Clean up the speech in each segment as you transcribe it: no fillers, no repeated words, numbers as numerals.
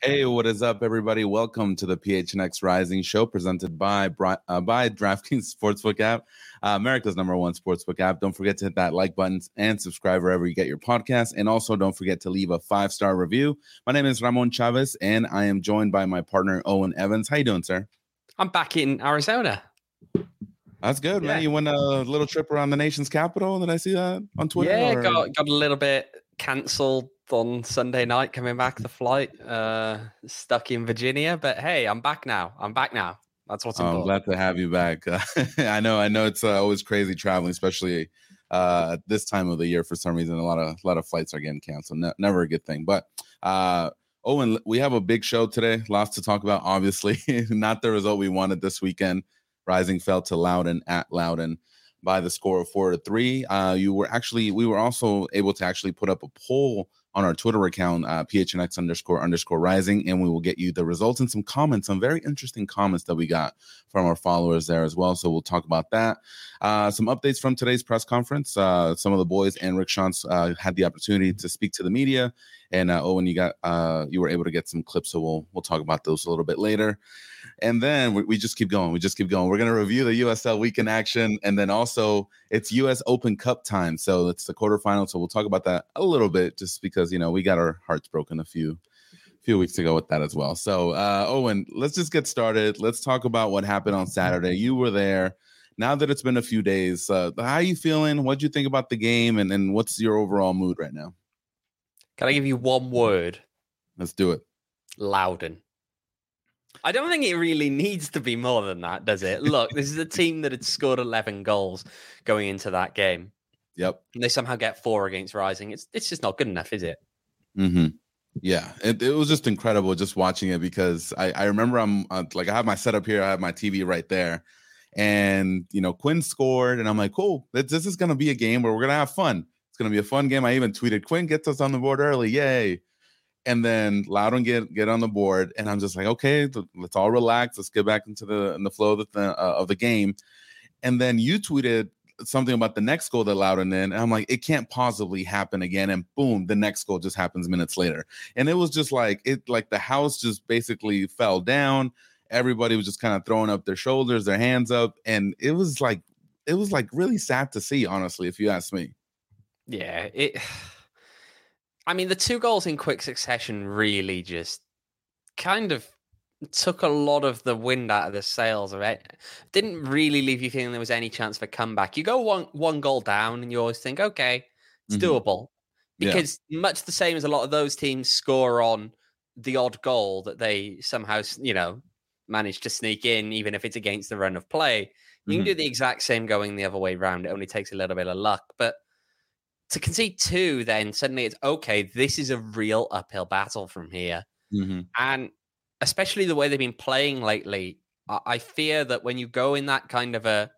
Hey, what is up, everybody? Welcome to the PHNX Rising Show, presented by DraftKings Sportsbook app, America's #1 sportsbook app. Don't forget to hit that like button and subscribe wherever you get your podcast. And also, don't forget to leave a 5-star review. My name is Ramon Chavez, and I am joined by my partner, Owen Evans. How you doing, sir? I'm back in Arizona. That's good, man. You went a little trip around the nation's capital. Did I see that on Twitter? Yeah, got a little bit canceled on Sunday night coming back the flight. Stuck in Virginia, but hey, I'm back now. That's what's important. I'm glad to have you back. I know it's always crazy traveling, especially this time of the year. For some reason, a lot of flights are getting canceled. Never a good thing. But Owen, we have a big show today. Lots to talk about. Obviously, not the result we wanted this weekend. Rising fell to Loudoun at Loudoun by the score of 4-3. We were also able to actually put up a poll on our Twitter account, PHNX__Rising, and we will get you the results and some comments, some very interesting comments that we got from our followers there as well. So we'll talk about that. Some updates from today's press conference. Some of the boys and Rick Schantz had the opportunity to speak to the media, and Owen, you were able to get some clips, so we'll talk about those a little bit later. And then we just keep going. We're going to review the USL weekend action. And then also it's US Open Cup time. So it's the quarterfinal. So we'll talk about that a little bit just because, we got our hearts broken a few weeks ago with that as well. So, Owen, let's just get started. Let's talk about what happened on Saturday. You were there. Now that it's been a few days, how are you feeling? What do you think about the game? And what's your overall mood right now? Can I give you one word? Let's do it. Loudoun. I don't think it really needs to be more than that, does it? Look, this is a team that had scored 11 goals going into that game. Yep. And they somehow get 4 against Rising. It's just not good enough, is it? Mm-hmm. Yeah, it was just incredible just watching it because I remember I have my setup here. I have my TV right there. And, Quinn scored. And I'm like, cool, this is going to be a game where we're going to have fun. It's going to be a fun game. I even tweeted, Quinn gets us on the board early. Yay. And then Loudoun get on the board, and I'm just like, okay, let's all relax. Let's get back into the flow of the game. And then you tweeted something about the next goal that Loudoun in, and I'm like, it can't possibly happen again. And boom, the next goal just happens minutes later. And it was just like the house just basically fell down. Everybody was just kind of throwing up their shoulders, their hands up, and it was like really sad to see, honestly, if you ask me. Yeah, the 2 goals in quick succession really just kind of took a lot of the wind out of the sails of it. Didn't really leave you feeling there was any chance for comeback. You go one goal down and you always think, okay, it's doable. Because much the same as a lot of those teams score on the odd goal that they somehow, manage to sneak in, even if it's against the run of play. You can do the exact same going the other way around. It only takes a little bit of luck. But to concede 2, then suddenly it's okay. This is a real uphill battle from here, and especially the way they've been playing lately. I fear that when you go in that kind of a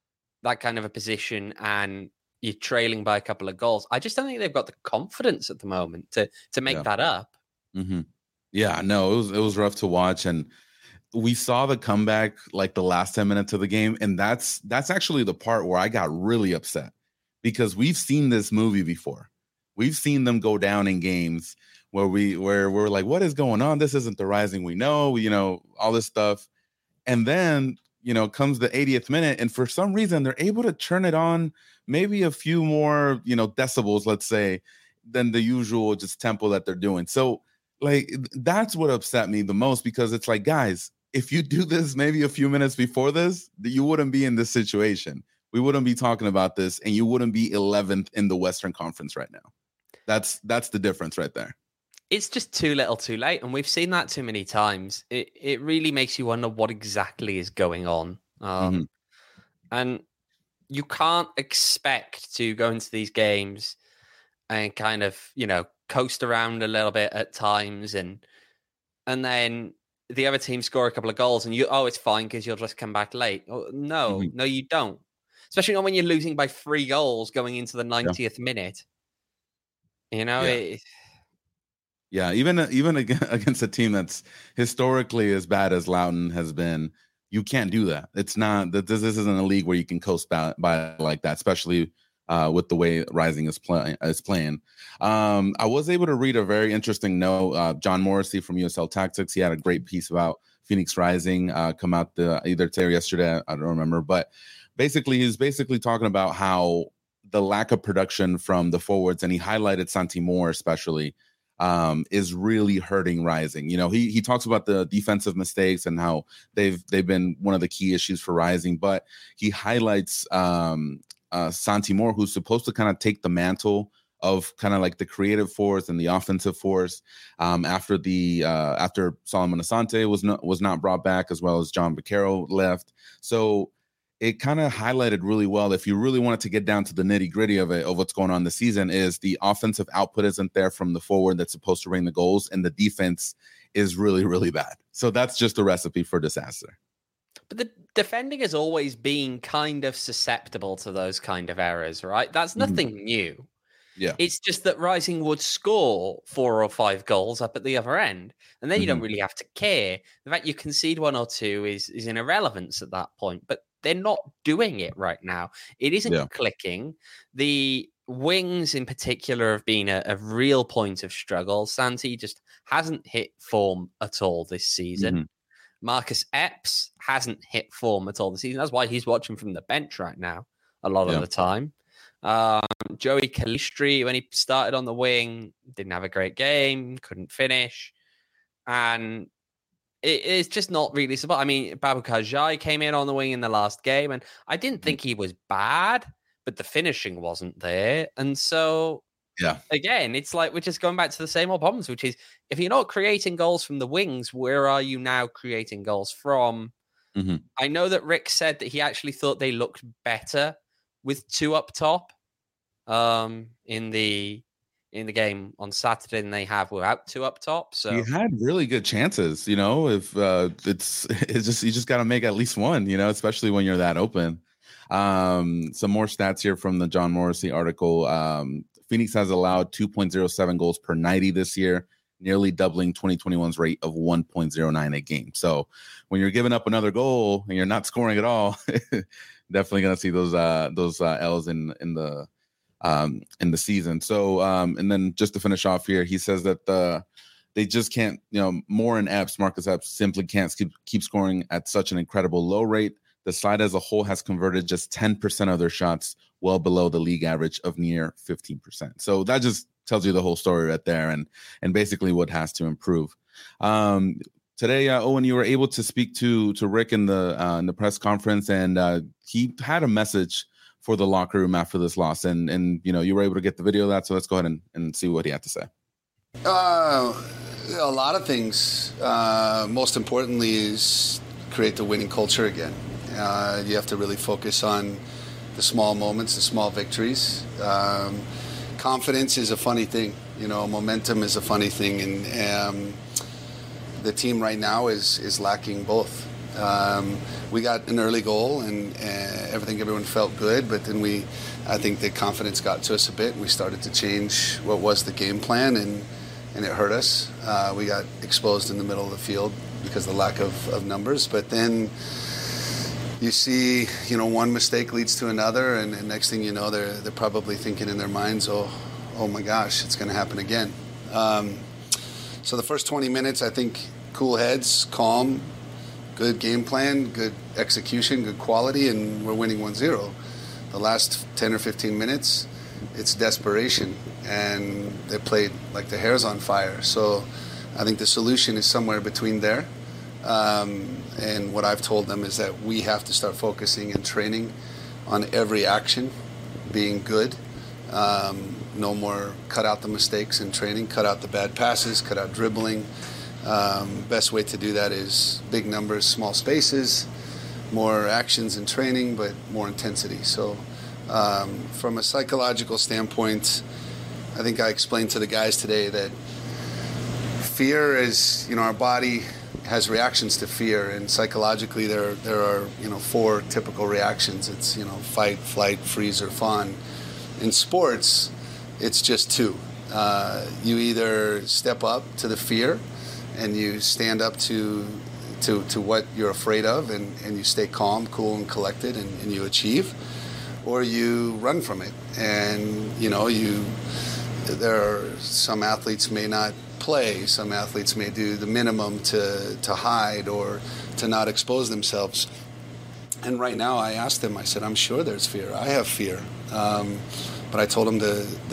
position and you're trailing by a couple of goals, I just don't think they've got the confidence at the moment to make that up. Mm-hmm. Yeah, no, it was rough to watch, and we saw the comeback like the last 10 minutes of the game, and that's actually the part where I got really upset. Because we've seen this movie before. We've seen them go down in games where we're like, what is going on? This isn't the Rising we know, all this stuff. And then, comes the 80th minute. And for some reason, they're able to turn it on maybe a few more, decibels, let's say, than the usual just tempo that they're doing. So, that's what upset me the most, because it's like, guys, if you do this maybe a few minutes before this, you wouldn't be in this situation. We wouldn't be talking about this, and you wouldn't be 11th in the Western Conference right now. That's the difference right there. It's just too little too late, and we've seen that too many times. It really makes you wonder what exactly is going on. And you can't expect to go into these games and kind of, coast around a little bit at times, and then the other team score a couple of goals, and it's fine because you'll just come back late. No, you don't. Especially not when you're losing by 3 goals going into the 90th minute. Even against a team that's historically as bad as Loudoun has been, you can't do that. It's not that this isn't a league where you can coast by like that, especially with the way Rising is playing. I was able to read a very interesting note. John Morrissey from USL Tactics, he had a great piece about Phoenix Rising come out either today or yesterday. I don't remember, but basically he's talking about how the lack of production from the forwards, and he highlighted Santi Moore especially, is really hurting Rising. You know, he talks about the defensive mistakes and how they've been one of the key issues for Rising, but he highlights Santi Moore, who's supposed to kind of take the mantle of kind of like the creative force and the offensive force after Solomon Asante was not brought back, as well as John Baquero left. So it kind of highlighted really well, if you really wanted to get down to the nitty gritty of what's going on this season, is the offensive output isn't there from the forward that's supposed to bring the goals, and the defense is really, really bad. So that's just a recipe for disaster. But the defending has always been kind of susceptible to those kind of errors, right? That's nothing new. Yeah. It's just that Rising would score 4 or 5 goals up at the other end, and then you don't really have to care. The fact you concede 1 or 2 is an irrelevance at that point, but they're not doing it right now. It isn't clicking. The wings in particular have been a real point of struggle. Santi just hasn't hit form at all this season. Marcus Epps hasn't hit form at all this season. That's why he's watching from the bench right now a lot of the time. Joey Calistri, when he started on the wing, didn't have a great game, couldn't finish. And it's just not really support. I mean, Baboucarr Jaï came in on the wing in the last game, and I didn't think he was bad, but the finishing wasn't there. And so, again, it's like we're just going back to the same old problems, which is if you're not creating goals from the wings, where are you now creating goals from? I know that Rick said that he actually thought they looked better with 2 up top in the game on Saturday than they have without 2 up top. So you had really good chances, you know, if it's just, you just got to make at least one, you know, especially when you're that open. Some more stats here from the John Morrissey article. Phoenix has allowed 2.07 goals per 90 this year, nearly doubling 2021's rate of 1.09 a game. So when you're giving up another goal and you're not scoring at all, definitely going to see those L's in the season. So and then just to finish off here, he says that they just can't, you know, Moore and Epps, Marcus Epps, simply can't keep scoring at such an incredible low rate. The side as a whole has converted just 10% of their shots, well below the league average of near 15%. So that just tells you the whole story right there, and basically what has to improve. Today, Owen, you were able to speak to Rick in the press conference, and he had a message for the locker room after this loss, and you know, you were able to get the video of that. So let's go ahead and see what he had to say. A lot of things. Most importantly is create the winning culture again. You have to really focus on the small moments, the small victories. Confidence is a funny thing, you know. Momentum is a funny thing, and the team right now is lacking both. We got an early goal, and everyone felt good, but then I think the confidence got to us a bit. We started to change what was the game plan, and it hurt us. We got exposed in the middle of the field because of the lack of numbers, but then you see, you know, one mistake leads to another, and next thing you know, they're probably thinking in their minds, oh my gosh, it's going to happen again. So the first 20 minutes, I think, cool heads, calm, good game plan, good execution, good quality, and we're winning 1-0. The last 10 or 15 minutes, it's desperation, and they played like the hair's on fire. So I think the solution is somewhere between there. And what I've told them is that we have to start focusing and training on every action being good. No more cut out the mistakes in training, cut out the bad passes, cut out dribbling. Best way to do that is big numbers, small spaces, more actions in training, but more intensity. So from a psychological standpoint, I think I explained to the guys today that fear is, you know, our body has reactions to fear, and psychologically there are, you know, 4 typical reactions. It's, you know, fight, flight, freeze, or fawn. In sports, it's just 2. You either step up to the fear and you stand up to what you're afraid of, and you stay calm, cool, and collected, and you achieve, or you run from it. And, there are some athletes may not play, some athletes may do the minimum to hide or to not expose themselves. And right now I asked them, I said, I'm sure there's fear. I have fear. But I told them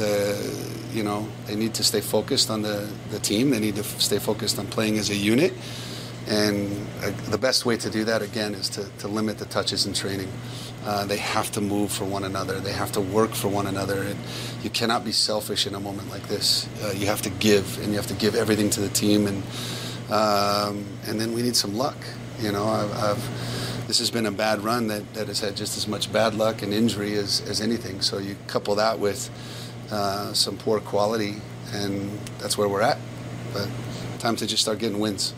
they need to stay focused on the team. They need to stay focused on playing as a unit. And the best way to do that, again, is to limit the touches in training. They have to move for one another. They have to work for one another. And you cannot be selfish in a moment like this. You have to give, and you have to give everything to the team. And then we need some luck. This has been a bad run that has had just as much bad luck and injury as anything. So you couple that with some poor quality, and that's where we're at. But time to just start getting wins.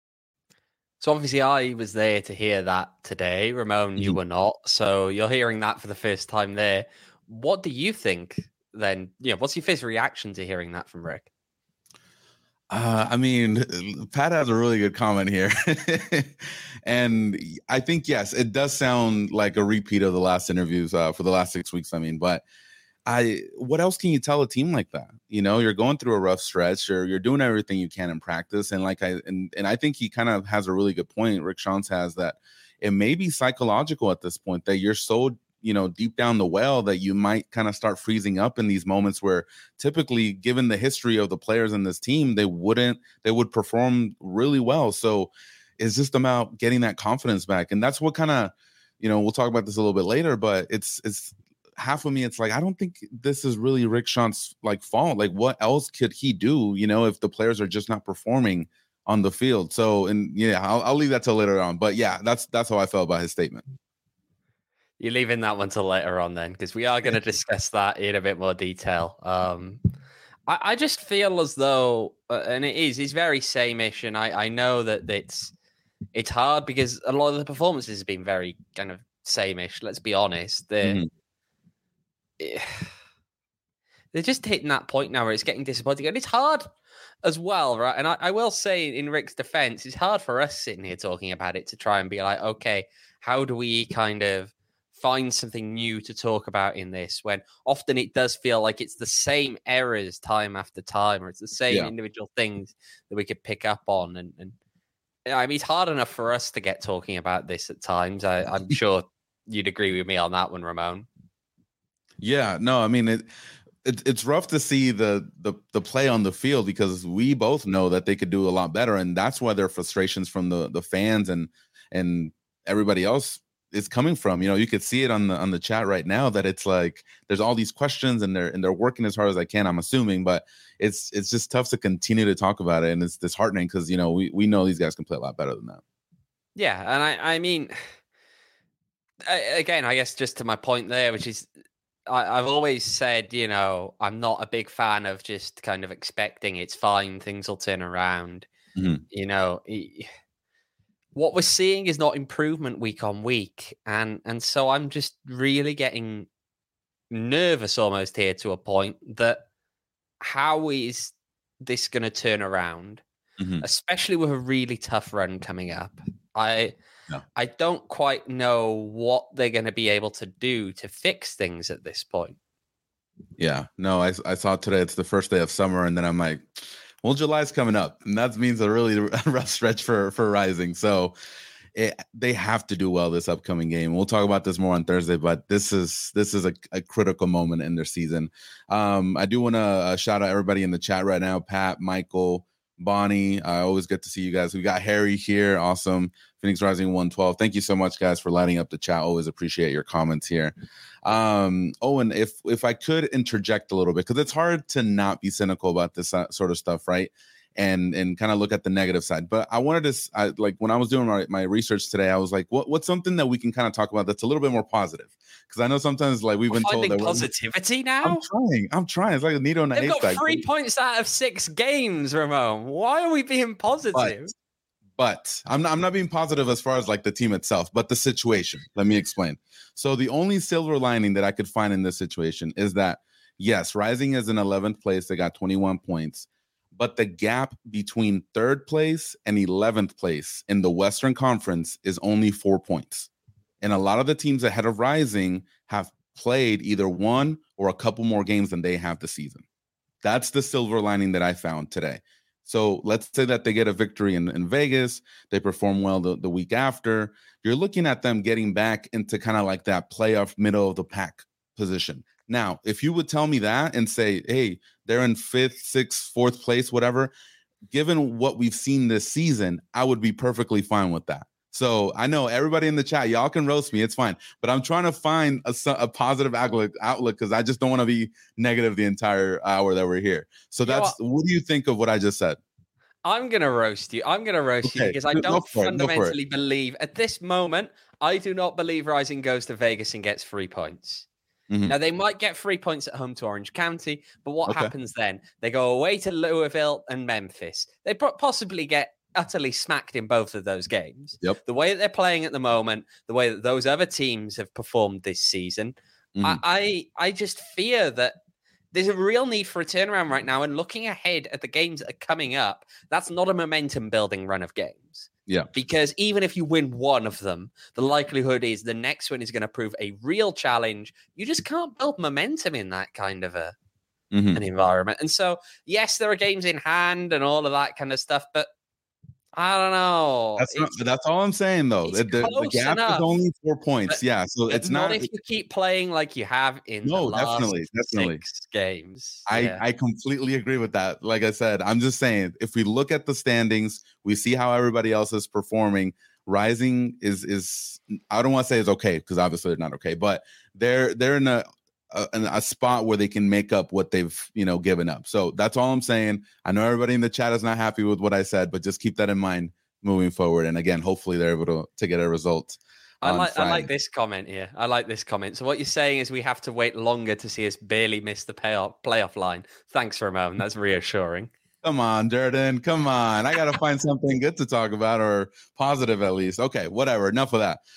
So obviously I was there to hear that today. Ramon, you were not. So you're hearing that for the first time there. What do you think then? What's your first reaction to hearing that from Rick? Pat has a really good comment here. And I think, yes, it does sound like a repeat of the last interviews for the last 6 weeks. But what else can you tell a team like that? You're going through a rough stretch, or you're doing everything you can in practice. And I think he kind of has a really good point. Rick Schantz has that it may be psychological at this point that you're so, deep down the well that you might kind of start freezing up in these moments where typically, given the history of the players in this team, they would perform really well. So it's just about getting that confidence back. And that's what kind of, we'll talk about this a little bit later, but it's half of me, it's like, I don't think this is really Rick Shantz's fault. What else could he do, if the players are just not performing on the field? So, and I'll leave that till later on. But yeah, that's how I felt about his statement. You're leaving that one till later on then, because we are going to discuss that in a bit more detail. I just feel as though, and it's very same-ish, and I know that it's hard because a lot of the performances have been very kind of same-ish. Let's be honest. They're just hitting that point now where it's getting disappointing, and it's hard as well, right? And I will say, in Rick's defense, it's hard for us sitting here talking about it to try and be like, okay, how do we kind of find something new to talk about in this, when often it does feel like it's the same errors time after time, or it's the same individual things that we could pick up on. And it's hard enough for us to get talking about this at times. I'm sure you'd agree with me on that one, Ramon. Yeah, no, it's rough to see the play on the field, because we both know that they could do a lot better, and that's why there are frustrations from the fans and everybody else is coming from. You could see it on the chat right now that it's like there's all these questions, and they're working as hard as I can, I'm assuming, but it's just tough to continue to talk about it, and it's disheartening because we know these guys can play a lot better than that. Yeah, and again, I guess just to my point there, which is I've always said, I'm not a big fan of just kind of expecting it's fine, things will turn around. What we're seeing is not improvement week on week. And so I'm just really getting nervous almost here to a point that how is this going to turn around, especially with a really tough run coming up? I don't quite know what they're going to be able to do to fix things at this point. Yeah, no, I saw today it's the first day of summer, and then I'm like, well, July's coming up, and that means a really rough stretch for Rising. So they have to do well this upcoming game. We'll talk about this more on Thursday, but this is a critical moment in their season. I do want to shout out everybody in the chat right now: Pat, Michael, Bonnie. I always get to see you guys. We got Harry here. Awesome. Phoenix Rising 112. Thank you so much, guys, for lighting up the chat. Always appreciate your comments here. And if I could interject a little bit, because it's hard to not be cynical about this sort of stuff, right? And kind of look at the negative side. But I wanted to, when I was doing my research today, I was like, what's something that we can kind of talk about that's a little bit more positive? Because I know sometimes we've been told that positivity now. I'm trying. It's like a needle in a haystack. They've got 3 points out of 6 games, Ramon. Why are we being positive? But I'm not being positive as far as the team itself, but the situation. Let me explain. So the only silver lining that I could find in this situation is that, yes, Rising is in 11th place. They got 21 points. But the gap between 3rd place and 11th place in the Western Conference is only 4 points. And a lot of the teams ahead of Rising have played either one or a couple more games than they have this season. That's the silver lining that I found today. So let's say that they get a victory in Vegas, they perform well the week after. You're looking at them getting back into kind of like that playoff middle of the pack position. Now, if you would tell me that and say, hey, they're in 5th, 6th, 4th place, whatever, given what we've seen this season, I would be perfectly fine with that. So I know everybody in the chat, y'all can roast me. It's fine. But I'm trying to find a positive outlook because I just don't want to be negative the entire hour that we're here. So what do you think of what I just said? I'm going to roast you. I'm going to roast you because I don't fundamentally believe at this moment, I do not believe Rising goes to Vegas and gets 3 points. Mm-hmm. Now, they might get 3 points at home to Orange County, but what happens then? They go away to Louisville and Memphis. They possibly get utterly smacked in both of those games. Yep. The way that they're playing at the moment, the way that those other teams have performed this season, I just fear that there's a real need for a turnaround right now. And looking ahead at the games that are coming up, that's not a momentum building run of games. Yeah. Because even if you win one of them, the likelihood is the next one is going to prove a real challenge. You just can't build momentum in that kind of an environment. And so, yes, there are games in hand and all of that kind of stuff, but I don't know. That's all I'm saying, though. The gap is only 4 points. Yeah, so it's not if you keep playing like you have in the last definitely 6 games. I completely agree with that. Like I said, I'm just saying, if we look at the standings, we see how everybody else is performing. Rising is I don't want to say is okay because obviously they're not okay, but they're in a spot where they can make up what they've given up. So that's all I'm saying. I know everybody in the chat is not happy with what I said, but just keep that in mind moving forward. And again, hopefully they're able to get a result. I like this comment here. I like this comment. So what you're saying is we have to wait longer to see us barely miss the playoff line. Thanks, Ramon. That's reassuring. Come on, Durden. Come on. I got to find something good to talk about or positive at least. Okay, whatever. Enough of that.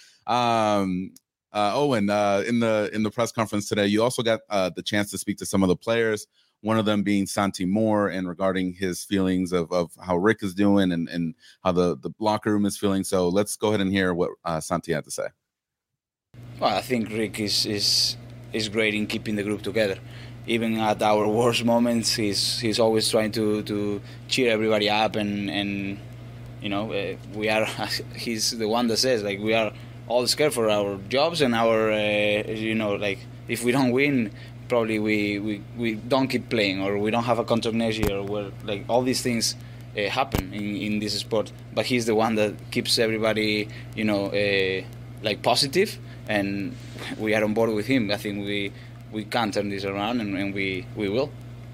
Owen, in the press conference today, you also got the chance to speak to some of the players, one of them being Santi Moore, and regarding his feelings of how Rick is doing and how the locker room is feeling. So let's go ahead and hear what Santi had to say. Well, I think Rick is great in keeping the group together. Even at our worst moments, he's always trying to cheer everybody up, and we are. He's the one that says like we are all scared for our jobs and our if we don't win, probably we don't keep playing or we don't have a contract next year. Where like all these things happen in this sport, but he's the one that keeps everybody positive, and we are on board with him. I think we can turn this around, and we will.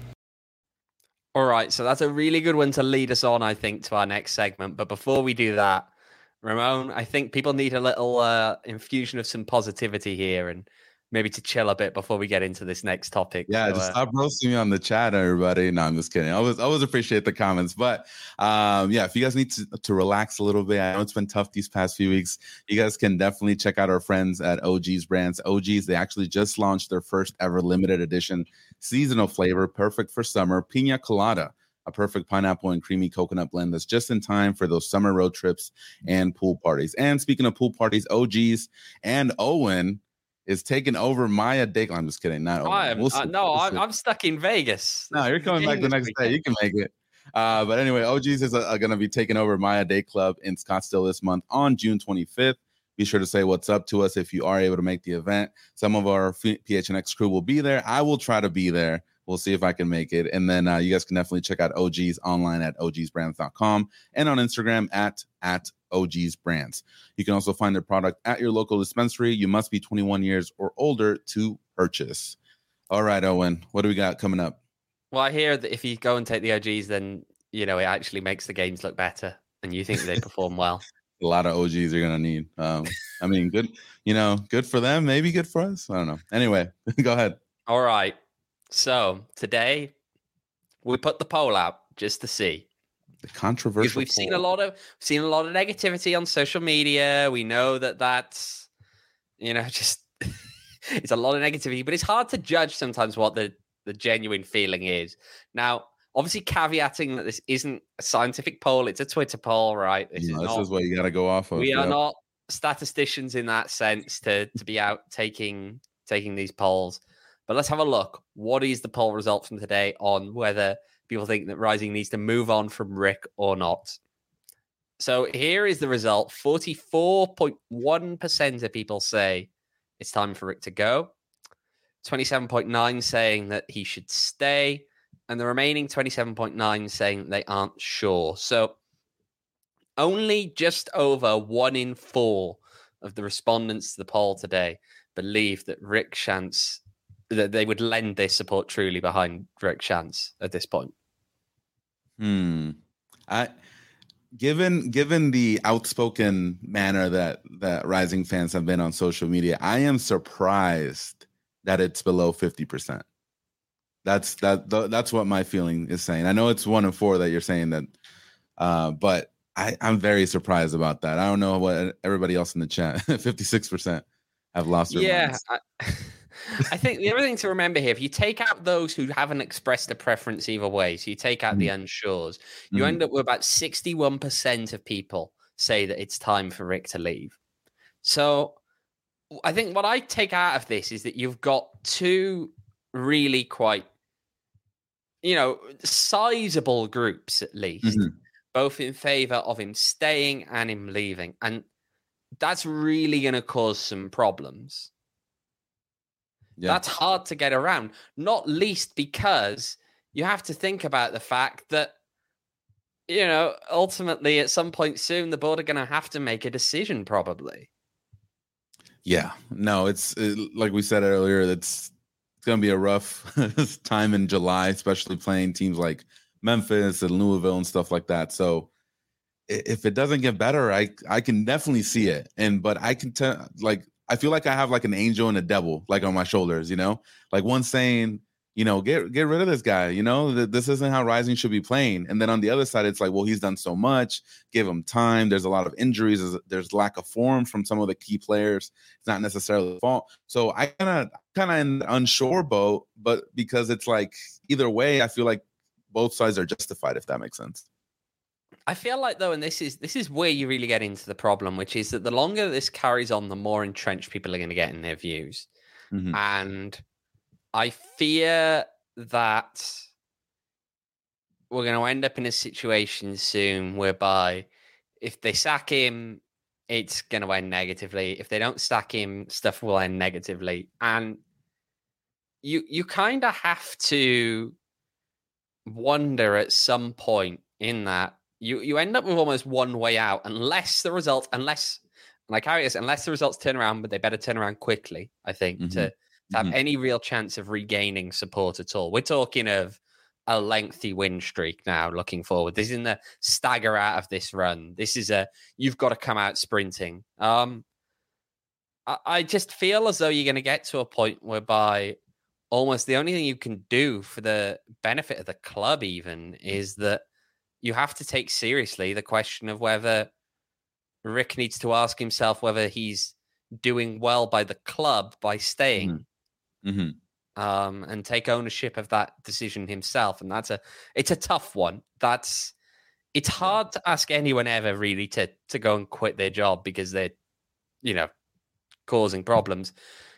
All right, so that's a really good one to lead us on, I think, to our next segment. But before we do that, Ramon, I think people need a little infusion of some positivity here and maybe to chill a bit before we get into this next topic. Yeah, so, just stop roasting me on the chat, everybody. No, I'm just kidding. I always appreciate the comments. But if you guys need to relax a little bit, I know it's been tough these past few weeks. You guys can definitely check out our friends at OG's Brands. OG's, they actually just launched their first ever limited edition seasonal flavor, perfect for summer, Pina Colada, a perfect pineapple and creamy coconut blend that's just in time for those summer road trips and pool parties. And speaking of pool parties, OG's and Owen is taking over Maya Dake. I'm just kidding. Not Owen. I'm stuck in Vegas. No, you're coming back the next day. You can make it. But anyway, OG's is going to be taking over Maya Day Club in Scottsdale this month on June 25th. Be sure to say what's up to us if you are able to make the event. Some of our PHNX crew will be there. I will try to be there. We'll see if I can make it. And then you guys can definitely check out OG's online at ogsbrands.com and on Instagram at ogsbrands. You can also find their product at your local dispensary. You must be 21 years or older to purchase. All right, Owen, what do we got coming up? Well, I hear that if you go and take the OGs, then, it actually makes the games look better and you think they perform well. A lot of OGs you're going to need. I mean, good, good for them. Maybe good for us. I don't know. Anyway, go ahead. All right. So today we put the poll out just to see. The controversial. Because we've seen a lot of negativity on social media. We know that's, just it's a lot of negativity, but it's hard to judge sometimes what the genuine feeling is. Now, obviously caveating that this isn't a scientific poll, it's a Twitter poll, right? This is what you got to go off of. We are not statisticians in that sense to be out taking taking these polls. But let's have a look. What is the poll result from today on whether people think that Rising needs to move on from Rick or not? So here is the result. 44.1% of people say it's time for Rick to go. 27.9% saying that he should stay. And the remaining 27.9% saying they aren't sure. So only just over 1 in 4 of the respondents to the poll today believe that Rick Schantz, that they would lend their support truly behind Rick Schantz at this point. Given the outspoken manner that Rising fans have been on social media, I am surprised that it's below 50%. That's what my feeling is saying. I know it's 1 in 4 that you're saying that, but I'm very surprised about that. I don't know what everybody else in the chat, 56% have lost their minds. I think the other thing to remember here, if you take out those who haven't expressed a preference either way, so you take out the unsures, you end up with about 61% of people say that it's time for Rick to leave. So I think what I take out of this is that you've got two really quite, sizable groups at least, both in favor of him staying and him leaving. And that's really going to cause some problems. Yeah. That's hard to get around, not least because you have to think about the fact that, ultimately at some point soon, the board are going to have to make a decision probably. Yeah, no, it's like we said earlier, it's going to be a rough time in July, especially playing teams like Memphis and Louisville and stuff like that. So if it doesn't get better, I can definitely see it. But I can tell, I feel like I have like an angel and a devil like on my shoulders, like one saying, get rid of this guy, this isn't how Rising should be playing. And then on the other side, it's like, well, he's done so much, give him time. There's a lot of injuries. There's lack of form from some of the key players. It's not necessarily the fault. So I kind of in the unsure boat, but because it's like either way, I feel like both sides are justified, if that makes sense. I feel like, though, and this is where you really get into the problem, which is that the longer this carries on, the more entrenched people are going to get in their views. And I fear that we're going to end up in a situation soon whereby if they sack him, it's going to end negatively. If they don't sack him, stuff will end negatively. And you kind of have to wonder at some point in that, You end up with almost one way out unless the results turn around, but they better turn around quickly, I think, to have any real chance of regaining support at all. We're talking of a lengthy win streak now looking forward. This isn't a stagger out of this run. This is you've got to come out sprinting. I just feel as though you're going to get to a point whereby almost the only thing you can do for the benefit of the club even is that you have to take seriously the question of whether Rick needs to ask himself whether he's doing well by the club by staying, and take ownership of that decision himself. And it's a tough one. It's hard to ask anyone ever really to go and quit their job because they're, causing problems.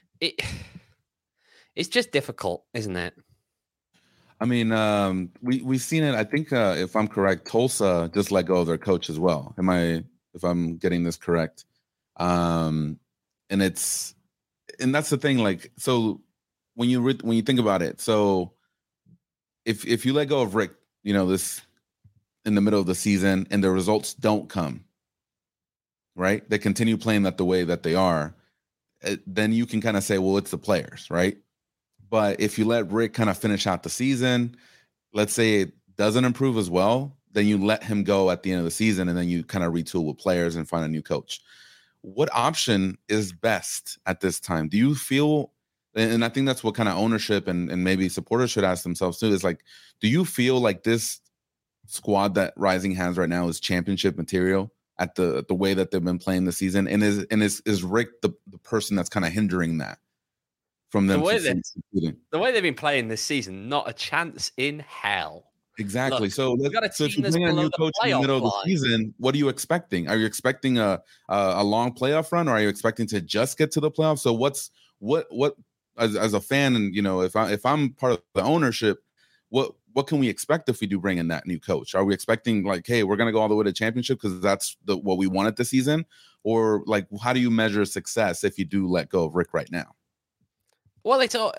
It's just difficult, isn't it? I mean, we've seen it. I think if I'm correct, Tulsa just let go of their coach as well. If I'm getting this correct? And that's the thing. Like, so when you think about it, so if you let go of Rick, this in the middle of the season and the results don't come, right? They continue playing that the way that they are. Then you can kind of say, well, it's the players, right? But if you let Rick kind of finish out the season, let's say it doesn't improve as well, then you let him go at the end of the season and then you kind of retool with players and find a new coach. What option is best at this time? Do you feel, and I think that's what kind of ownership and maybe supporters should ask themselves too, is like, do you feel like this squad that Rising has right now is championship material at the way that they've been playing the season? And is Rick the person that's kind of hindering that? From them, the way they've been playing this season, not a chance in hell. Exactly. So if you bring a new coach in the middle of the season, what are you expecting? Are you expecting a long playoff run, or are you expecting to just get to the playoffs? So what as a fan, and if I'm part of the ownership, what can we expect if we do bring in that new coach? Are we expecting like, hey, we're gonna go all the way to championship because that's what we wanted this season, or like how do you measure success if you do let go of Rick right now? Well,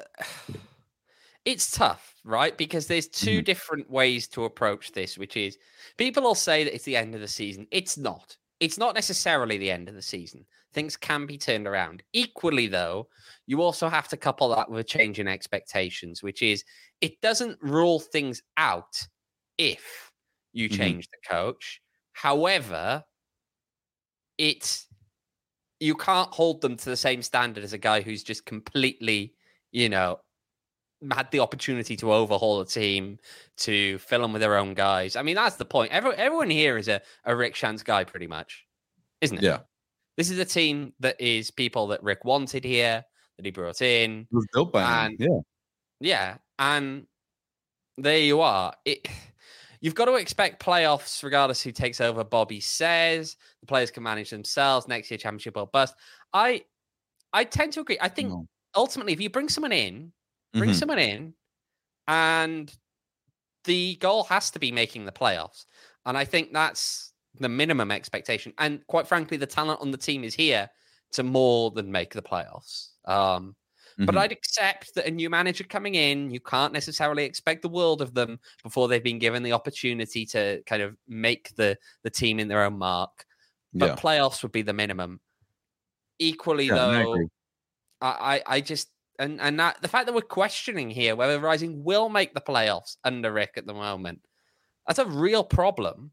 it's tough, right? Because there's two different ways to approach this, which is people will say that it's the end of the season. It's not. It's not necessarily the end of the season. Things can be turned around. Equally, though, you also have to couple that with a change in expectations, which is it doesn't rule things out if you change the coach. However, you can't hold them to the same standard as a guy who's just completely, had the opportunity to overhaul a team, to fill them with their own guys. I mean, that's the point. Everyone here is a Rick Schantz guy, pretty much, isn't it? Yeah. This is a team that is people that Rick wanted here, that he brought in. It was built by him. Yeah. Yeah. And there you are. You've got to expect playoffs regardless who takes over. Bobby says the players can manage themselves next year, championship or bust. I tend to agree. I think ultimately, if you bring someone in, and the goal has to be making the playoffs. And I think that's the minimum expectation. And quite frankly, the talent on the team is here to more than make the playoffs. But I'd accept that a new manager coming in, you can't necessarily expect the world of them before they've been given the opportunity to kind of make the team in their own mark. But playoffs would be the minimum. Equally, though, I just... And that, the fact that we're questioning here whether Rising will make the playoffs under Rick at the moment, that's a real problem.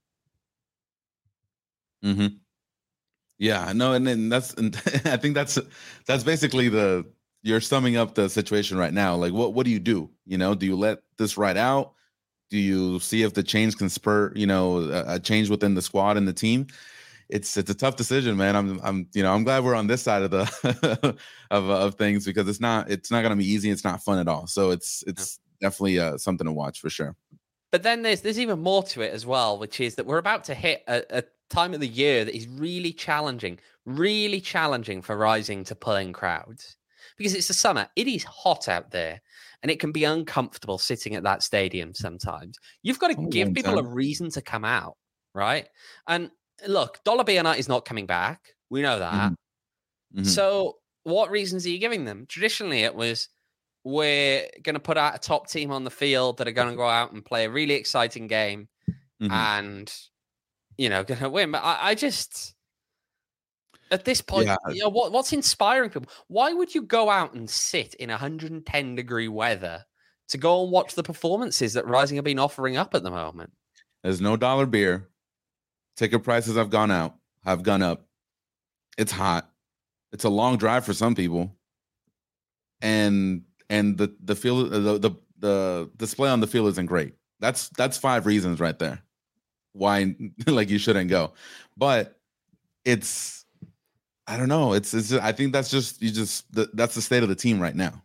Yeah, no, and I think that's basically you're summing up the situation right now. Like, what do you do? Do you let this ride out? Do you see if the change can spur, a change within the squad and the team? It's a tough decision, man. I'm glad we're on this side of the of things because it's not going to be easy. It's not fun at all. So it's definitely something to watch for sure. But then there's even more to it as well, which is that we're about to hit a time of the year that is really challenging for Rising to pull in crowds because it's the summer. It is hot out there, and it can be uncomfortable sitting at that stadium sometimes. You've got to give people a reason to come out, right? And look, Dollar Bill is not coming back. We know that. So what reasons are you giving them? Traditionally, it was, we're going to put out a top team on the field that are going to go out and play a really exciting game and, going to win. But I just, at this point, what's inspiring people? Why would you go out and sit in 110-degree weather to go and watch the performances that Rising have been offering up at the moment? There's no dollar beer. Ticket prices have gone up. It's hot. It's a long drive for some people. And the field, the display on the field isn't great. That's 5 reasons right there why like you shouldn't go. But it's, I don't know. It's just, I think that's just that's the state of the team right now.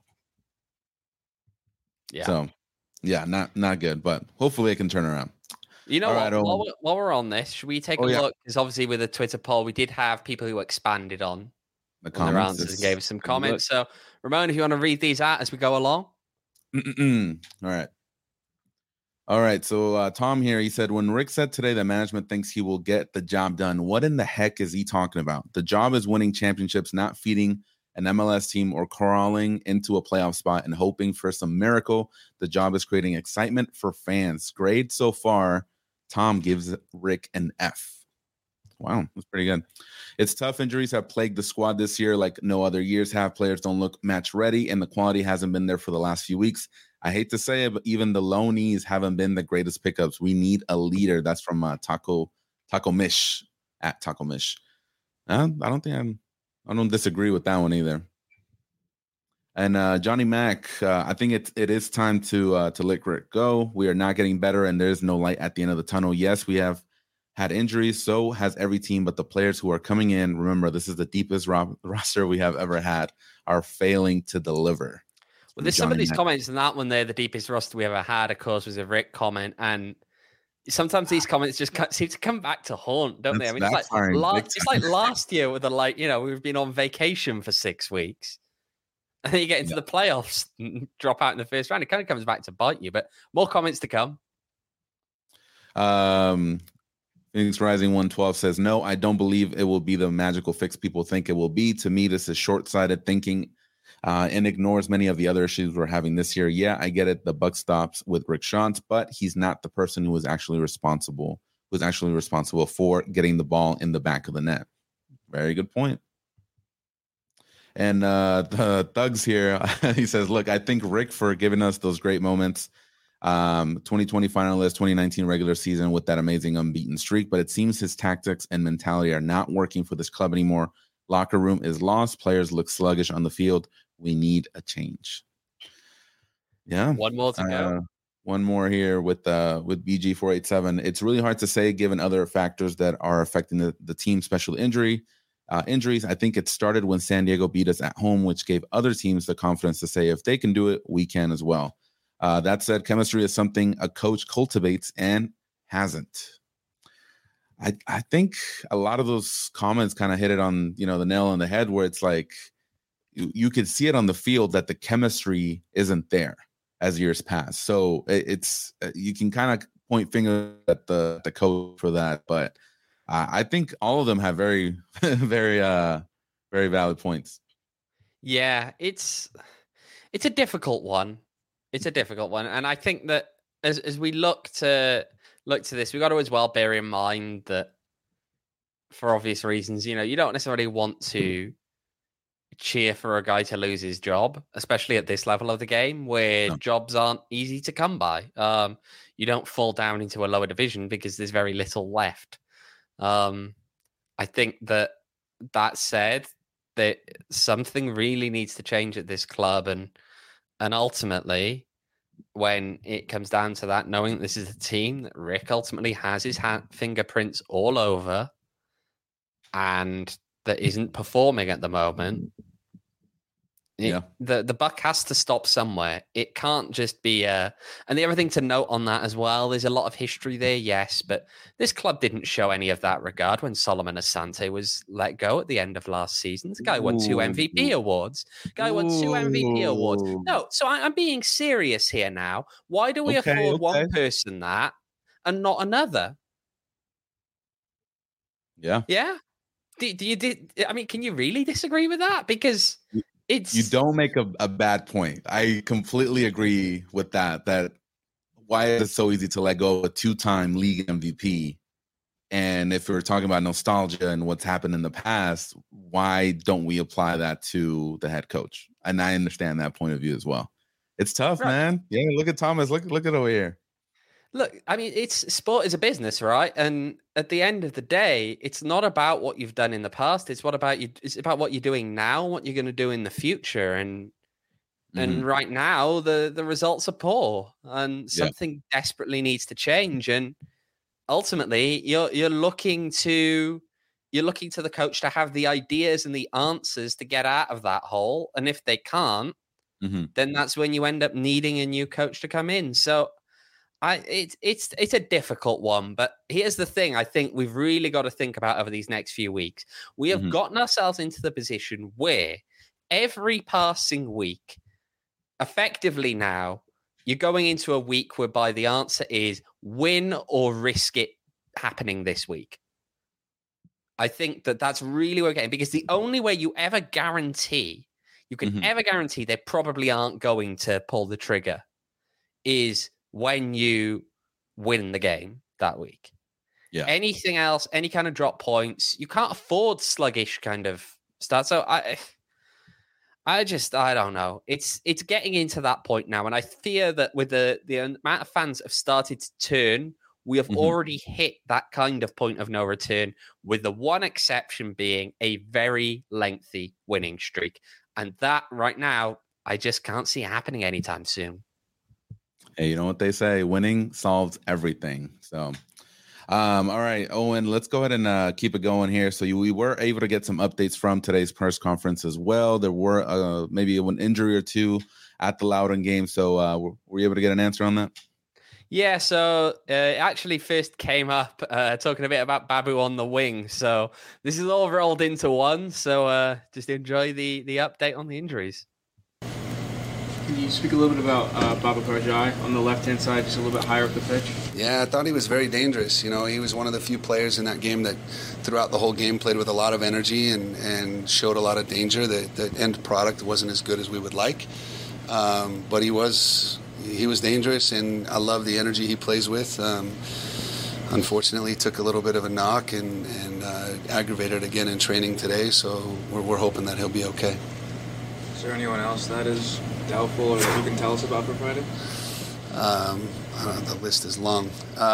Yeah. So yeah, not good. But hopefully it can turn around. While we're on this, should we take a look? Because obviously with the Twitter poll, we did have people who expanded on their answers and gave us some comments. So, Ramon, if you want to read these out as we go along. All right. So Tom here, he said, when Rick said today that management thinks he will get the job done, what in the heck is he talking about? The job is winning championships, not feeding an MLS team or crawling into a playoff spot and hoping for some miracle. The job is creating excitement for fans. Grade so far. Tom gives Rick an F. Wow, that's pretty good. It's tough. Injuries have plagued the squad this year like no other years have. Players don't look match ready, and the quality hasn't been there for the last few weeks. I hate to say it, but even the loanees haven't been the greatest pickups. We need a leader. That's from Taco Mish at Taco Mish. I don't disagree with that one either. And Johnny Mac, I think it is time to let Rick go. We are not getting better, and there's no light at the end of the tunnel. Yes, we have had injuries. So has every team, but the players who are coming in, remember, this is the deepest roster we have ever had, are failing to deliver. Well, there's some of these comments, and that one there, the deepest roster we ever had, of course, was a Rick comment, and sometimes these comments just seem to come back to haunt, don't they? I mean, it's like last year with we've been on vacation for 6 weeks. and then you get into the playoffs and drop out in the first round. It kind of comes back to bite you, but more comments to come. Phoenix Rising 112 says, no, I don't believe it will be the magical fix people think it will be. To me, this is short-sighted thinking and ignores many of the other issues we're having this year. Yeah, I get it. The buck stops with Rick Schantz, but he's not the person who was actually responsible for getting the ball in the back of the net. Very good point. And the Thugs here, he says, look, I think Rick for giving us those great moments. 2020 finalist, 2019 regular season with that amazing unbeaten streak, but it seems his tactics and mentality are not working for this club anymore. Locker room is lost. Players look sluggish on the field. We need a change. Yeah. One more to go. One more here with BG487. It's really hard to say given other factors that are affecting the team, especially injuries. I think it started when San Diego beat us at home, which gave other teams the confidence to say if they can do it, we can as well. That said, chemistry is something a coach cultivates and hasn't. I think a lot of those comments kind of hit it on, the nail on the head, where it's like you could see it on the field that the chemistry isn't there as years pass. So it's you can kind of point fingers at the coach for that, but I think all of them have very, very, very valid points. Yeah, it's a difficult one. It's a difficult one, and I think that as we look to this, we got to as well bear in mind that for obvious reasons, you don't necessarily want to cheer for a guy to lose his job, especially at this level of the game where jobs aren't easy to come by. You don't fall down into a lower division because there's very little left. I think that said, that something really needs to change at this club, and ultimately, when it comes down to that, knowing this is a team that Rick ultimately has his fingerprints all over and that isn't performing at the moment, the buck has to stop somewhere. It can't just be and the other thing to note on that as well, there's a lot of history there, yes, but this club didn't show any of that regard when Solomon Asante was let go at the end of last season. The guy won 2 MVP awards. No, so I'm being serious here now. Why do we afford one person that and not another? Yeah. Can you really disagree with that? Because you don't make a bad point. I completely agree with that why is it so easy to let go of a 2-time league MVP? And if we're talking about nostalgia and what's happened in the past, why don't we apply that to the head coach? And I understand that point of view as well. It's tough, man. Yeah, look at Thomas. Look at over here. Look, I mean, sport is a business, right? And at the end of the day, it's not about what you've done in the past. It's about what you're doing now, what you're going to do in the future. And right now, the results are poor, and something desperately needs to change. And ultimately, you're looking to the coach to have the ideas and the answers to get out of that hole. And if they can't, then that's when you end up needing a new coach to come in. So it's a difficult one, but here's the thing I think we've really got to think about over these next few weeks. We have gotten ourselves into the position where every passing week, effectively now, you're going into a week whereby the answer is win or risk it happening this week. I think that's really where we're getting, because the only way you can ever guarantee they probably aren't going to pull the trigger is when you win the game that week. Yeah. Anything else, any kind of drop points, you can't afford sluggish kind of start. So I don't know. It's getting into that point now, and I fear that with the amount of fans that have started to turn, we have already hit that kind of point of no return, with the one exception being a very lengthy winning streak. And that right now, I just can't see happening anytime soon. Hey, you know what they say? Winning solves everything. So, all right, Owen, let's go ahead and keep it going here. So we were able to get some updates from today's press conference as well. There were maybe an injury or two at the Loudoun game. So were you able to get an answer on that? Yeah, so it actually first came up talking a bit about Babu on the wing. So this is all rolled into one. So just enjoy the update on the injuries. Can you speak a little bit about Baba Karjai on the left-hand side, just a little bit higher up the pitch? Yeah, I thought he was very dangerous. You know, he was one of the few players in that game that throughout the whole game played with a lot of energy and showed a lot of danger. The end product wasn't as good as we would like, but he was dangerous, and I love the energy he plays with. Unfortunately, he took a little bit of a knock and aggravated again in training today, so we're hoping that he'll be okay. Is there anyone else that is doubtful or that you can tell us about for Friday? I don't know, the list is long.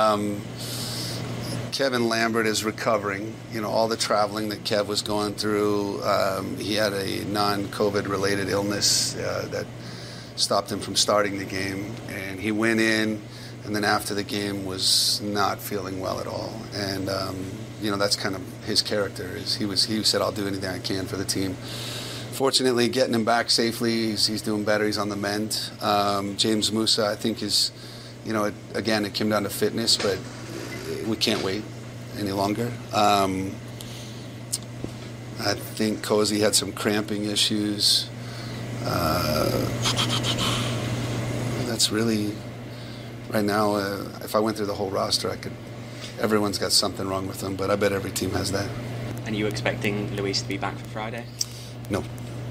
Kevin Lambert is recovering. You know, all the traveling that Kev was going through, he had a non-COVID related illness that stopped him from starting the game, and he went in and then after the game was not feeling well at all. And you know, that's kind of his character. Is he said, I'll do anything I can for the team. Fortunately, getting him back safely, he's doing better. He's on the mend. James Musa, I think, is, you know, again, it came down to fitness, but we can't wait any longer. I think Cozy had some cramping issues. That's really, right now, if I went through the whole roster, everyone's got something wrong with them, but I bet every team has that. And are you expecting Luis to be back for Friday? No.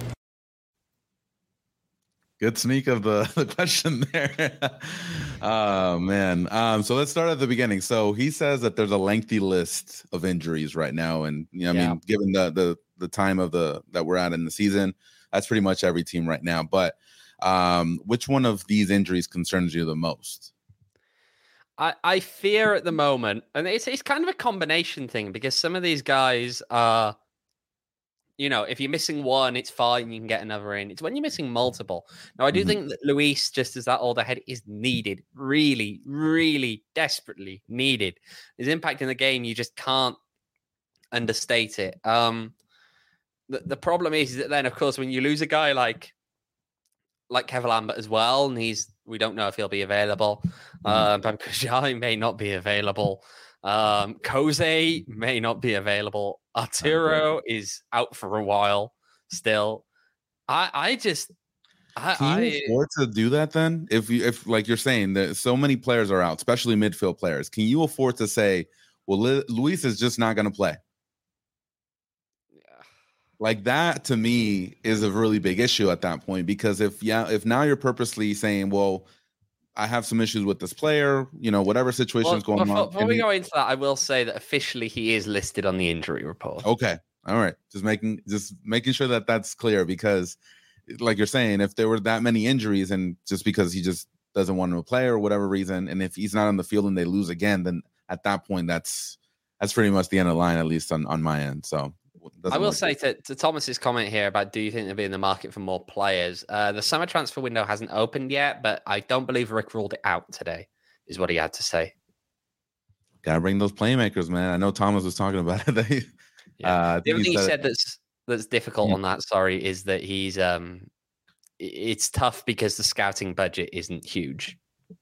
Good sneak of the question there. Oh, man. So let's start at the beginning. So he says that there's a lengthy list of injuries right now. And, you know, I mean, given the time of that we're at in the season, that's pretty much every team right now. But which one of these injuries concerns you the most? I fear at the moment, and it's kind of a combination thing, because some of these guys are, you know, if you're missing one, it's fine, you can get another in. It's when you're missing multiple. Now, I do think that Luis, just as that older head, is needed, really, really desperately needed. His impact in the game, you just can't understate it. The problem is that then, of course, when you lose a guy like Kevin Lambert as well, and we don't know if he'll be available. Babakajai may not be available. Koze may not be available. Arturo is out for a while still. Can you afford to do that then? If like you're saying that so many players are out, especially midfield players, can you afford to say, well, Luis is just not going to play? Like that to me is a really big issue at that point, because if now you're purposely saying, well, I have some issues with this player, you know, whatever situation is going on. Before we go into that, I will say that officially he is listed on the injury report. Okay. All right. Just making sure that that's clear, because like you're saying, if there were that many injuries and just because he just doesn't want to play or whatever reason, and if he's not on the field and they lose again, then at that point, that's pretty much the end of the line, at least on my end. So I will say to Thomas's comment here about, do you think they'll be in the market for more players? The summer transfer window hasn't opened yet, but I don't believe Rick ruled it out today, is what he had to say. Gotta bring those playmakers, man. I know Thomas was talking about it. The other thing he said that's difficult on that, is that he's it's tough because the scouting budget isn't huge.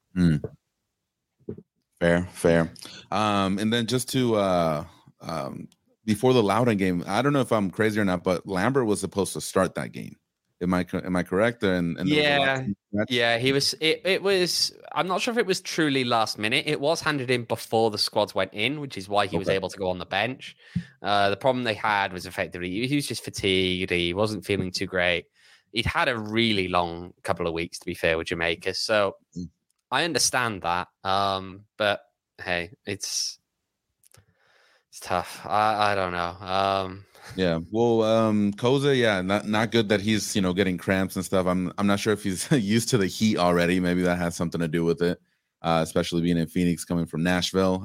Fair. And then just to before the Loudoun game, I don't know if I'm crazy or not, but Lambert was supposed to start that game. Am I correct? And yeah, he was. It was. I'm not sure if it was truly last minute. It was handed in before the squads went in, which is why he was able to go on the bench. The problem they had was effectively he was just fatigued. He wasn't feeling too great. He'd had a really long couple of weeks, to be fair, with Jamaica. So I understand that. But hey, it's tough. I don't know. Yeah. Well, Koza, not good that he's, getting cramps and stuff. I'm not sure if he's used to the heat already. Maybe that has something to do with it, especially being in Phoenix, coming from Nashville.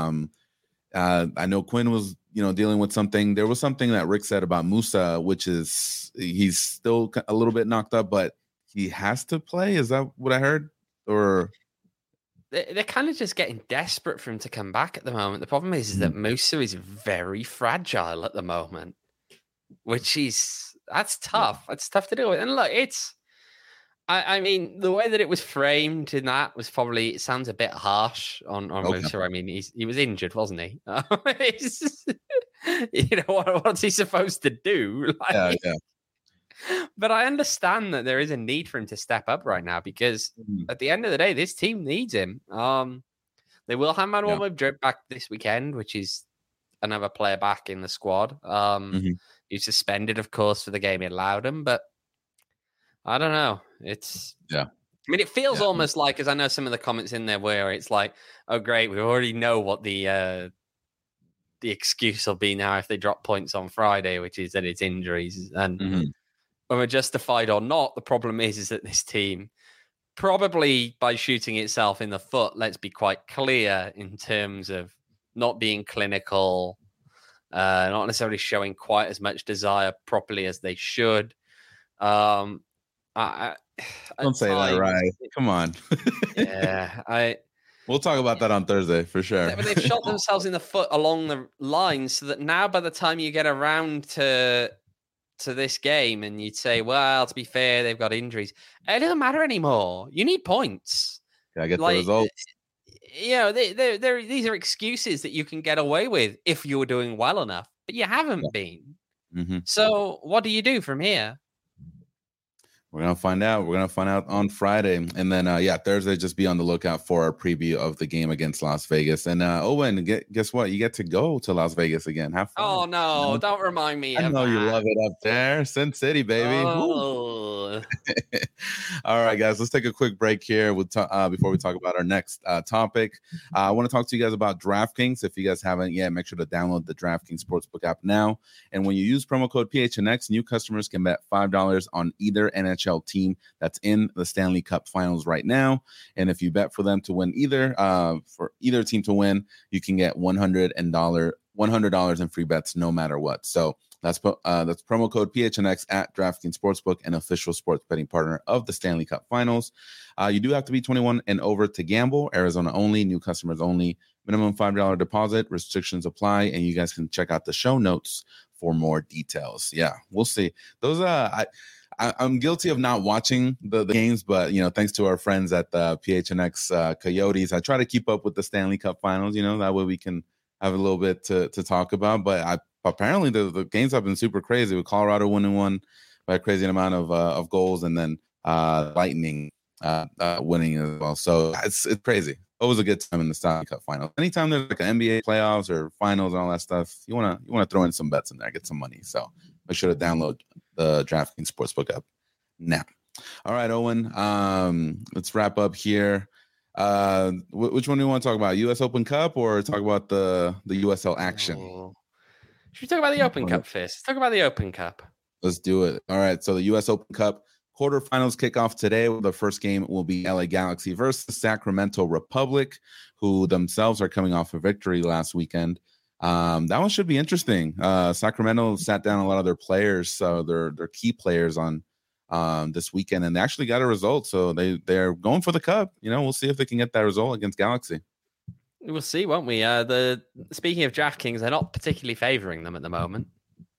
I know Quinn was, dealing with something. There was something that Rick said about Musa, which is he's still a little bit knocked up, but he has to play. Is that what I heard? Or they're kind of just getting desperate for him to come back at the moment. The problem is that Musa is very fragile at the moment, that's tough. It's tough to deal with. And look, I mean, the way that it was framed in that was probably, it sounds a bit harsh on Musa. I mean, he was injured, wasn't he? What's he supposed to do? Yeah. But I understand that there is a need for him to step up right now because at the end of the day, this team needs him. They will have Manuel Madrid back this weekend, which is another player back in the squad. He's suspended, of course, for the game in Loudon, but I don't know. I mean, it feels almost like, as I know some of the comments in there where it's like, oh, great, we already know what the excuse will be now if they drop points on Friday, which is that it's injuries. And whether justified or not, the problem is that this team, probably by shooting itself in the foot, let's be quite clear in terms of not being clinical, not necessarily showing quite as much desire properly as they should. Don't say that, right? Come on. We'll talk about that on Thursday for sure. But they've shot themselves in the foot along the line, so that now by the time you get around to this game and you'd say, well, to be fair, they've got injuries. It doesn't matter anymore. You need points. Gotta get the results. These are excuses that you can get away with if you were doing well enough, but you haven't been. So what do you do from here? We're going to find out. We're going to find out on Friday. And then, Thursday, just be on the lookout for our preview of the game against Las Vegas. And, Owen, guess what? You get to go to Las Vegas again. Have fun. Oh, no. Don't remind me. I know you love it up there. Sin City, baby. Oh. All right, guys. Let's take a quick break here before we talk about our next topic. I want to talk to you guys about DraftKings. If you guys haven't yet, make sure to download the DraftKings Sportsbook app now. And when you use promo code PHNX, new customers can bet $5 on either NHL team that's in the Stanley Cup Finals right now, and if you bet for them to win for either team to win, you can get $100 in free bets no matter what. So that's promo code PHNX at DraftKings Sportsbook, an official sports betting partner of the Stanley Cup Finals. You do have to be 21 and over to gamble. Arizona only, new customers only. Minimum $5 deposit. Restrictions apply, and you guys can check out the show notes for more details. Yeah, we'll see. Those I'm guilty of not watching the games, but, thanks to our friends at the PHNX Coyotes, I try to keep up with the Stanley Cup Finals, that way we can have a little bit to talk about. But apparently the games have been super crazy, with Colorado winning one by a crazy amount of goals, and then Lightning winning as well. So it's crazy. Always a good time in the Stanley Cup Finals. Anytime there's like an NBA playoffs or finals and all that stuff, you want to throw in some bets in there, get some money. So make sure to download the DraftKings Sportsbook app now. All right, Owen, let's wrap up here. Which one do you want to talk about? U.S. Open Cup or talk about the USL action? Should we talk about the Open Cup first? Let's talk about the Open Cup. Let's do it. All right, so the U.S. Open Cup quarterfinals kick off today. The first game will be LA Galaxy versus Sacramento Republic, who themselves are coming off a victory last weekend. That one should be interesting. Sacramento sat down a lot of their players, so their key players on this weekend, and they actually got a result. So they're going for the cup. We'll see if they can get that result against Galaxy. We'll see, won't we? Speaking of DraftKings, they're not particularly favoring them at the moment.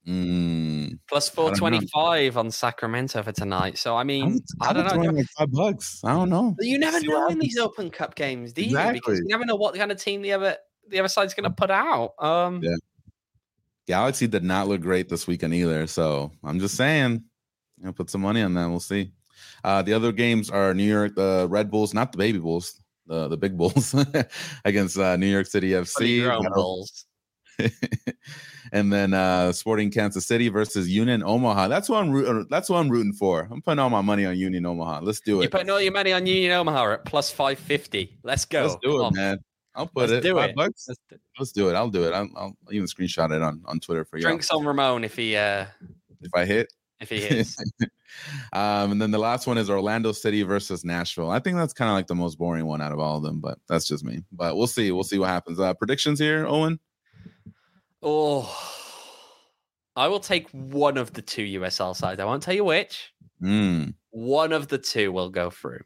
Plus 425 on Sacramento for tonight. So I mean, I don't know. Like $5. I don't know. You never know in these Open Cup games, do you? Exactly. Because you never know what kind of team the other side's going to put out. Galaxy did not look great this weekend either. So I'm just saying, put some money on that. We'll see. The other games are New York, the Red Bulls, not the baby Bulls, the big Bulls against New York City FC. Bulls. And then Sporting Kansas City versus Union Omaha. That's what I'm rooting for. I'm putting all my money on Union Omaha. Let's do it. You're putting all your money on Union Omaha at plus 550. Let's go. Let's do it, man. I'll put it. $5. Let's do it. I'll do it. I'll even screenshot it on Twitter for you. Drinks on Ramon if he if I hit. If he hits. And then the last one is Orlando City versus Nashville. I think that's kind of like the most boring one out of all of them, but that's just me. But we'll see. We'll see what happens. Predictions here, Owen? Oh, I will take one of the two USL sides. I won't tell you which. One of the two will go through.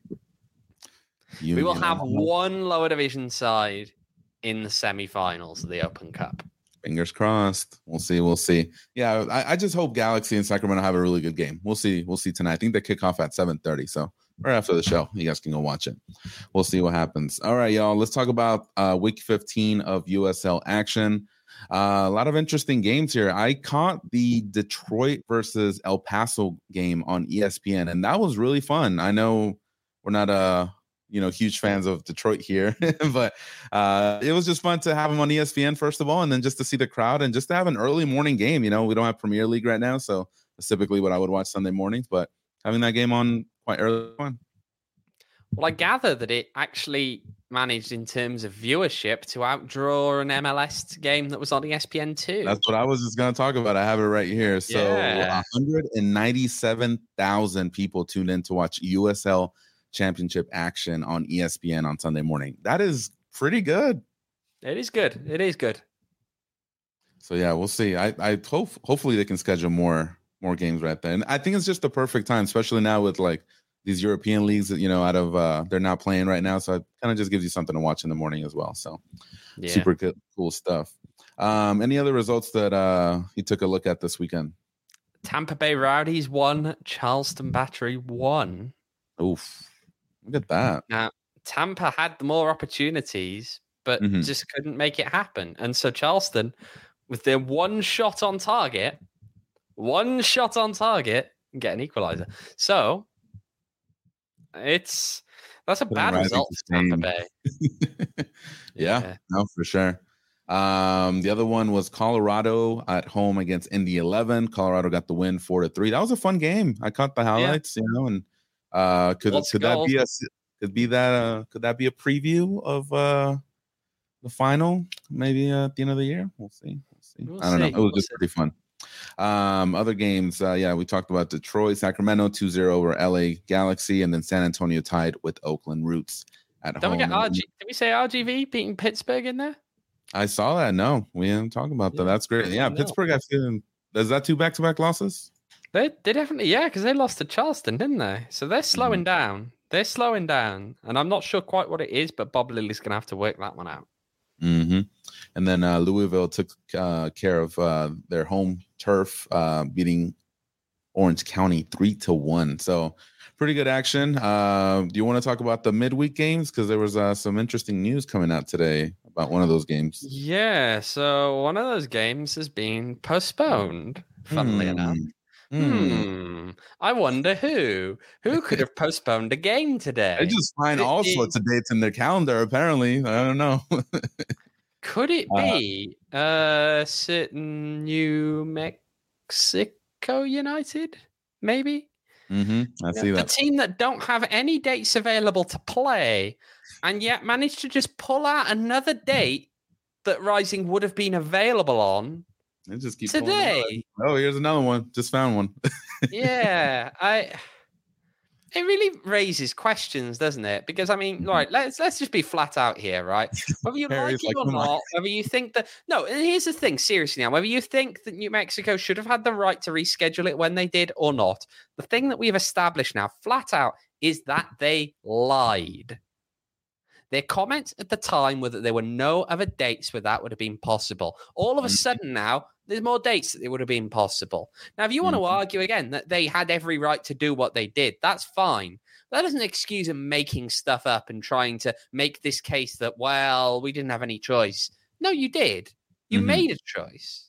We will have one lower division side in the semifinals of the Open Cup. Fingers crossed. We'll see. We'll see. Yeah, I just hope Galaxy and Sacramento have a really good game. We'll see. We'll see tonight. I think they kick off at 7:30. So right after the show, you guys can go watch it. We'll see what happens. All right, y'all. Let's talk about week 15 of USL action. A lot of interesting games here. I caught the Detroit versus El Paso game on ESPN, and that was really fun. I know we're not huge fans of Detroit here, but it was just fun to have them on ESPN first of all, and then just to see the crowd and just to have an early morning game. We don't have Premier League right now, so that's typically what I would watch Sunday mornings, but having that game on quite early fun. Well, I gather that it actually managed in terms of viewership to outdraw an MLS game that was on ESPN2. That's what I was just going to talk about. I have it right here. So 197,000 people tuned in to watch USL Championship action on ESPN on Sunday morning. That is pretty good. It is good. It is good. So yeah, we'll see. I hopefully they can schedule more games right there. And I think it's just the perfect time, especially now with like these European leagues that, out of they're not playing right now. So it kind of just gives you something to watch in the morning as well. So super good, cool stuff. Any other results that you took a look at this weekend? Tampa Bay Rowdies 1, Charleston Battery 1. Oof. Look at that. Now, Tampa had the more opportunities, but just couldn't make it happen. And so Charleston, with their one shot on target, get an equalizer. So that's a bad result for Tampa Bay. Yeah, no, for sure. The other one was Colorado at home against Indy 11. Colorado got the win 4-3. That was a fun game. I caught the highlights, and could that be a preview of the final? Maybe at the end of the year. We'll see. I don't know. It was just pretty fun. Other games, we talked about Detroit, Sacramento 2-0 over LA Galaxy, and then San Antonio tied with Oakland Roots at home. Did we say RGV beating Pittsburgh in there? I saw that. No, we haven't talked about that. That's great. Yeah, Pittsburgh, I feel. Is that 2 back-to-back losses? They definitely, because they lost to Charleston, didn't they? So they're slowing down. They're slowing down, and I'm not sure quite what it is, but Bob Lilly's going to have to work that one out. Mm-hmm. And then Louisville took care of their home turf, beating Orange County 3-1. So pretty good action. Do you want to talk about the midweek games? Because there was some interesting news coming out today about one of those games. Yeah, so one of those games is being postponed, funnily enough. I wonder who could have postponed a game today. They just find all sorts of dates in their calendar, apparently. I don't know. Could it be certain New Mexico United? Maybe. I see that. A team that don't have any dates available to play, and yet managed to just pull out another date that Rising would have been available on. They just keep today. Oh, here's another one. Just found one. Yeah, it really raises questions, doesn't it? Because I mean, right, let's just be flat out here, right? Whether you like it or not, whether you think that and here's the thing, seriously now, whether you think that New Mexico should have had the right to reschedule it when they did or not, the thing that we've established now, flat out, is that they lied. Their comments at the time were that there were no other dates where that would have been possible. All of a sudden now, there's more dates that it would have been possible. Now, if you want to argue again that they had every right to do what they did, that's fine. That doesn't excuse them making stuff up and trying to make this case that, well, we didn't have any choice. No, you did. You made a choice.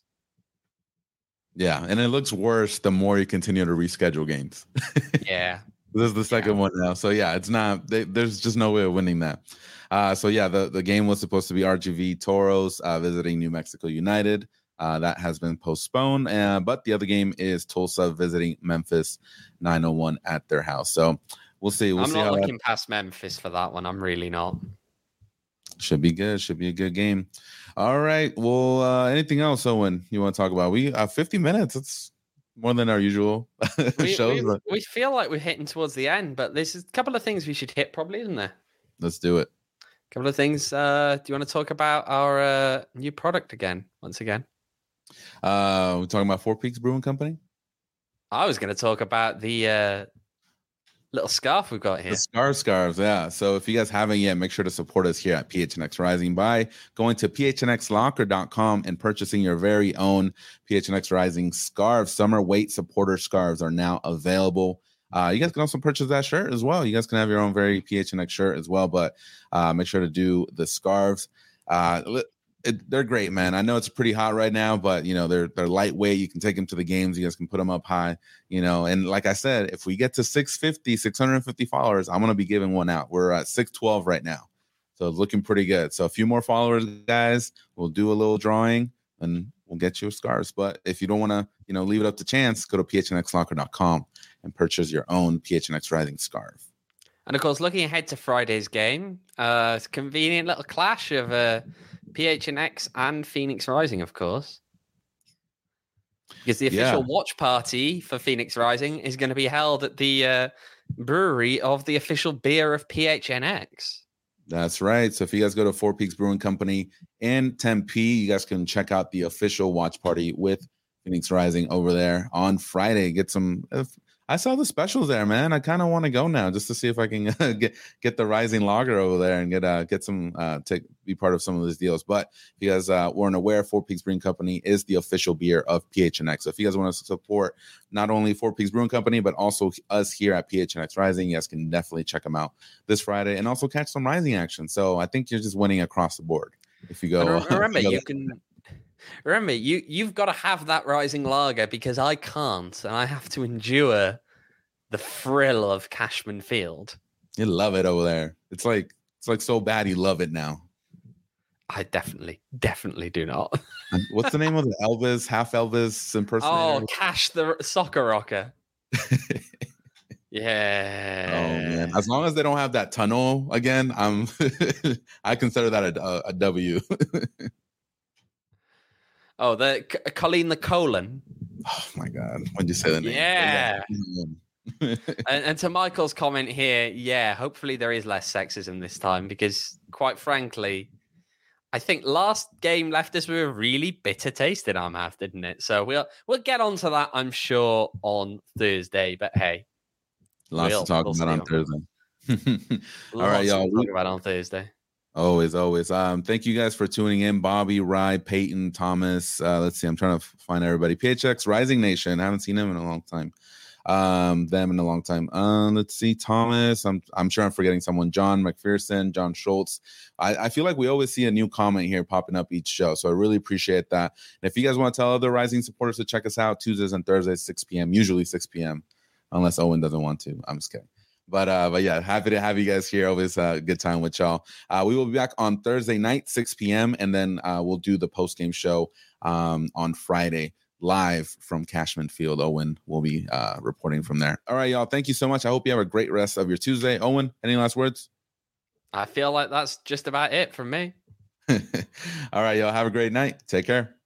Yeah, and it looks worse the more you continue to reschedule games. Yeah. This is the second one now. So, yeah, it's not – there's just no way of winning that. The game was supposed to be RGV Toros visiting New Mexico United. That has been postponed. But the other game is Tulsa visiting Memphis 901 at their house. So, we'll see. I'm not looking past Memphis for that one. I'm really not. Should be good. Should be a good game. All right. Well, anything else, Owen, you want to talk about? We 50 minutes. It's more than our usual shows. We feel like we're hitting towards the end, but there's a couple of things we should hit probably, isn't there? Let's do it. A couple of things. Do you want to talk about our new product once again? We're talking about Four Peaks Brewing Company? I was going to talk about the little scarf we've got here. The scarves, yeah. So if you guys haven't yet, make sure to support us here at PHNX Rising by going to phnxlocker.com and purchasing your very own PHNX Rising scarves. Summer weight supporter scarves are now available. You guys can also purchase that shirt as well. You guys can have your own very PHNX shirt as well, but make sure to do the scarves. they're great, man. I know it's pretty hot right now, but they're lightweight. You can take them to the games. You guys can put them up high, and like I said, if we get to 650 followers, I'm going to be giving one out. We're at 612 right now. So it's looking pretty good. So a few more followers, guys, we'll do a little drawing and we'll get you scarves. But if you don't want to, leave it up to chance, go to phnxlocker.com and purchase your own PHNX Rising scarf. And of course, looking ahead to Friday's game, it's a convenient little clash of PHNX and Phoenix Rising, of course. Because the official watch party for Phoenix Rising is going to be held at the brewery of the official beer of PHNX. That's right. So if you guys go to Four Peaks Brewing Company in Tempe, you guys can check out the official watch party with Phoenix Rising over there on Friday. Get some. I saw the specials there, man. I kind of want to go now just to see if I can get the Rising Lager over there and get some be part of some of these deals. But if you guys weren't aware, Four Peaks Brewing Company is the official beer of PHNX. So if you guys want to support not only Four Peaks Brewing Company but also us here at PHNX Rising, you guys can definitely check them out this Friday and also catch some Rising action. So I think you're just winning across the board if you go. Remember, you've got to have that Rising Lager because I can't, and I have to endure the thrill of Cashman Field. You love it over there. It's like so bad you love it now. I definitely do not. What's the name of the Elvis, half Elvis impersonator? Oh, Cash the Soccer Rocker. Yeah. Oh man! As long as they don't have that tunnel again, I consider that a W. Oh, the Colleen the Colon. Oh my God! When you say the name, yeah. and to Michael's comment here, hopefully there is less sexism this time because, quite frankly, I think last game left us with a really bitter taste in our mouth, didn't it? So we'll get onto that, I'm sure, on Thursday. But hey, lots to talk about on Thursday. All right, y'all. Talk about on Thursday. Always. Thank you guys for tuning in. Bobby, Rye, Peyton, Thomas. Let's see. I'm trying to find everybody. PHX, Rising Nation. I haven't seen them in a long time. Let's see. Thomas. I'm sure I'm forgetting someone. John McPherson, John Schultz. I feel like we always see a new comment here popping up each show. So I really appreciate that. And if you guys want to tell other Rising supporters to check us out, Tuesdays and Thursdays, 6 p.m., usually 6 p.m., unless Owen doesn't want to. I'm just kidding. But yeah, happy to have you guys here. Always a good time with y'all. We will be back on Thursday night, 6 p.m. And then we'll do the post-game show on Friday live from Cashman Field. Owen will be reporting from there. All right, y'all. Thank you so much. I hope you have a great rest of your Tuesday. Owen, any last words? I feel like that's just about it from me. All right, y'all. Have a great night. Take care.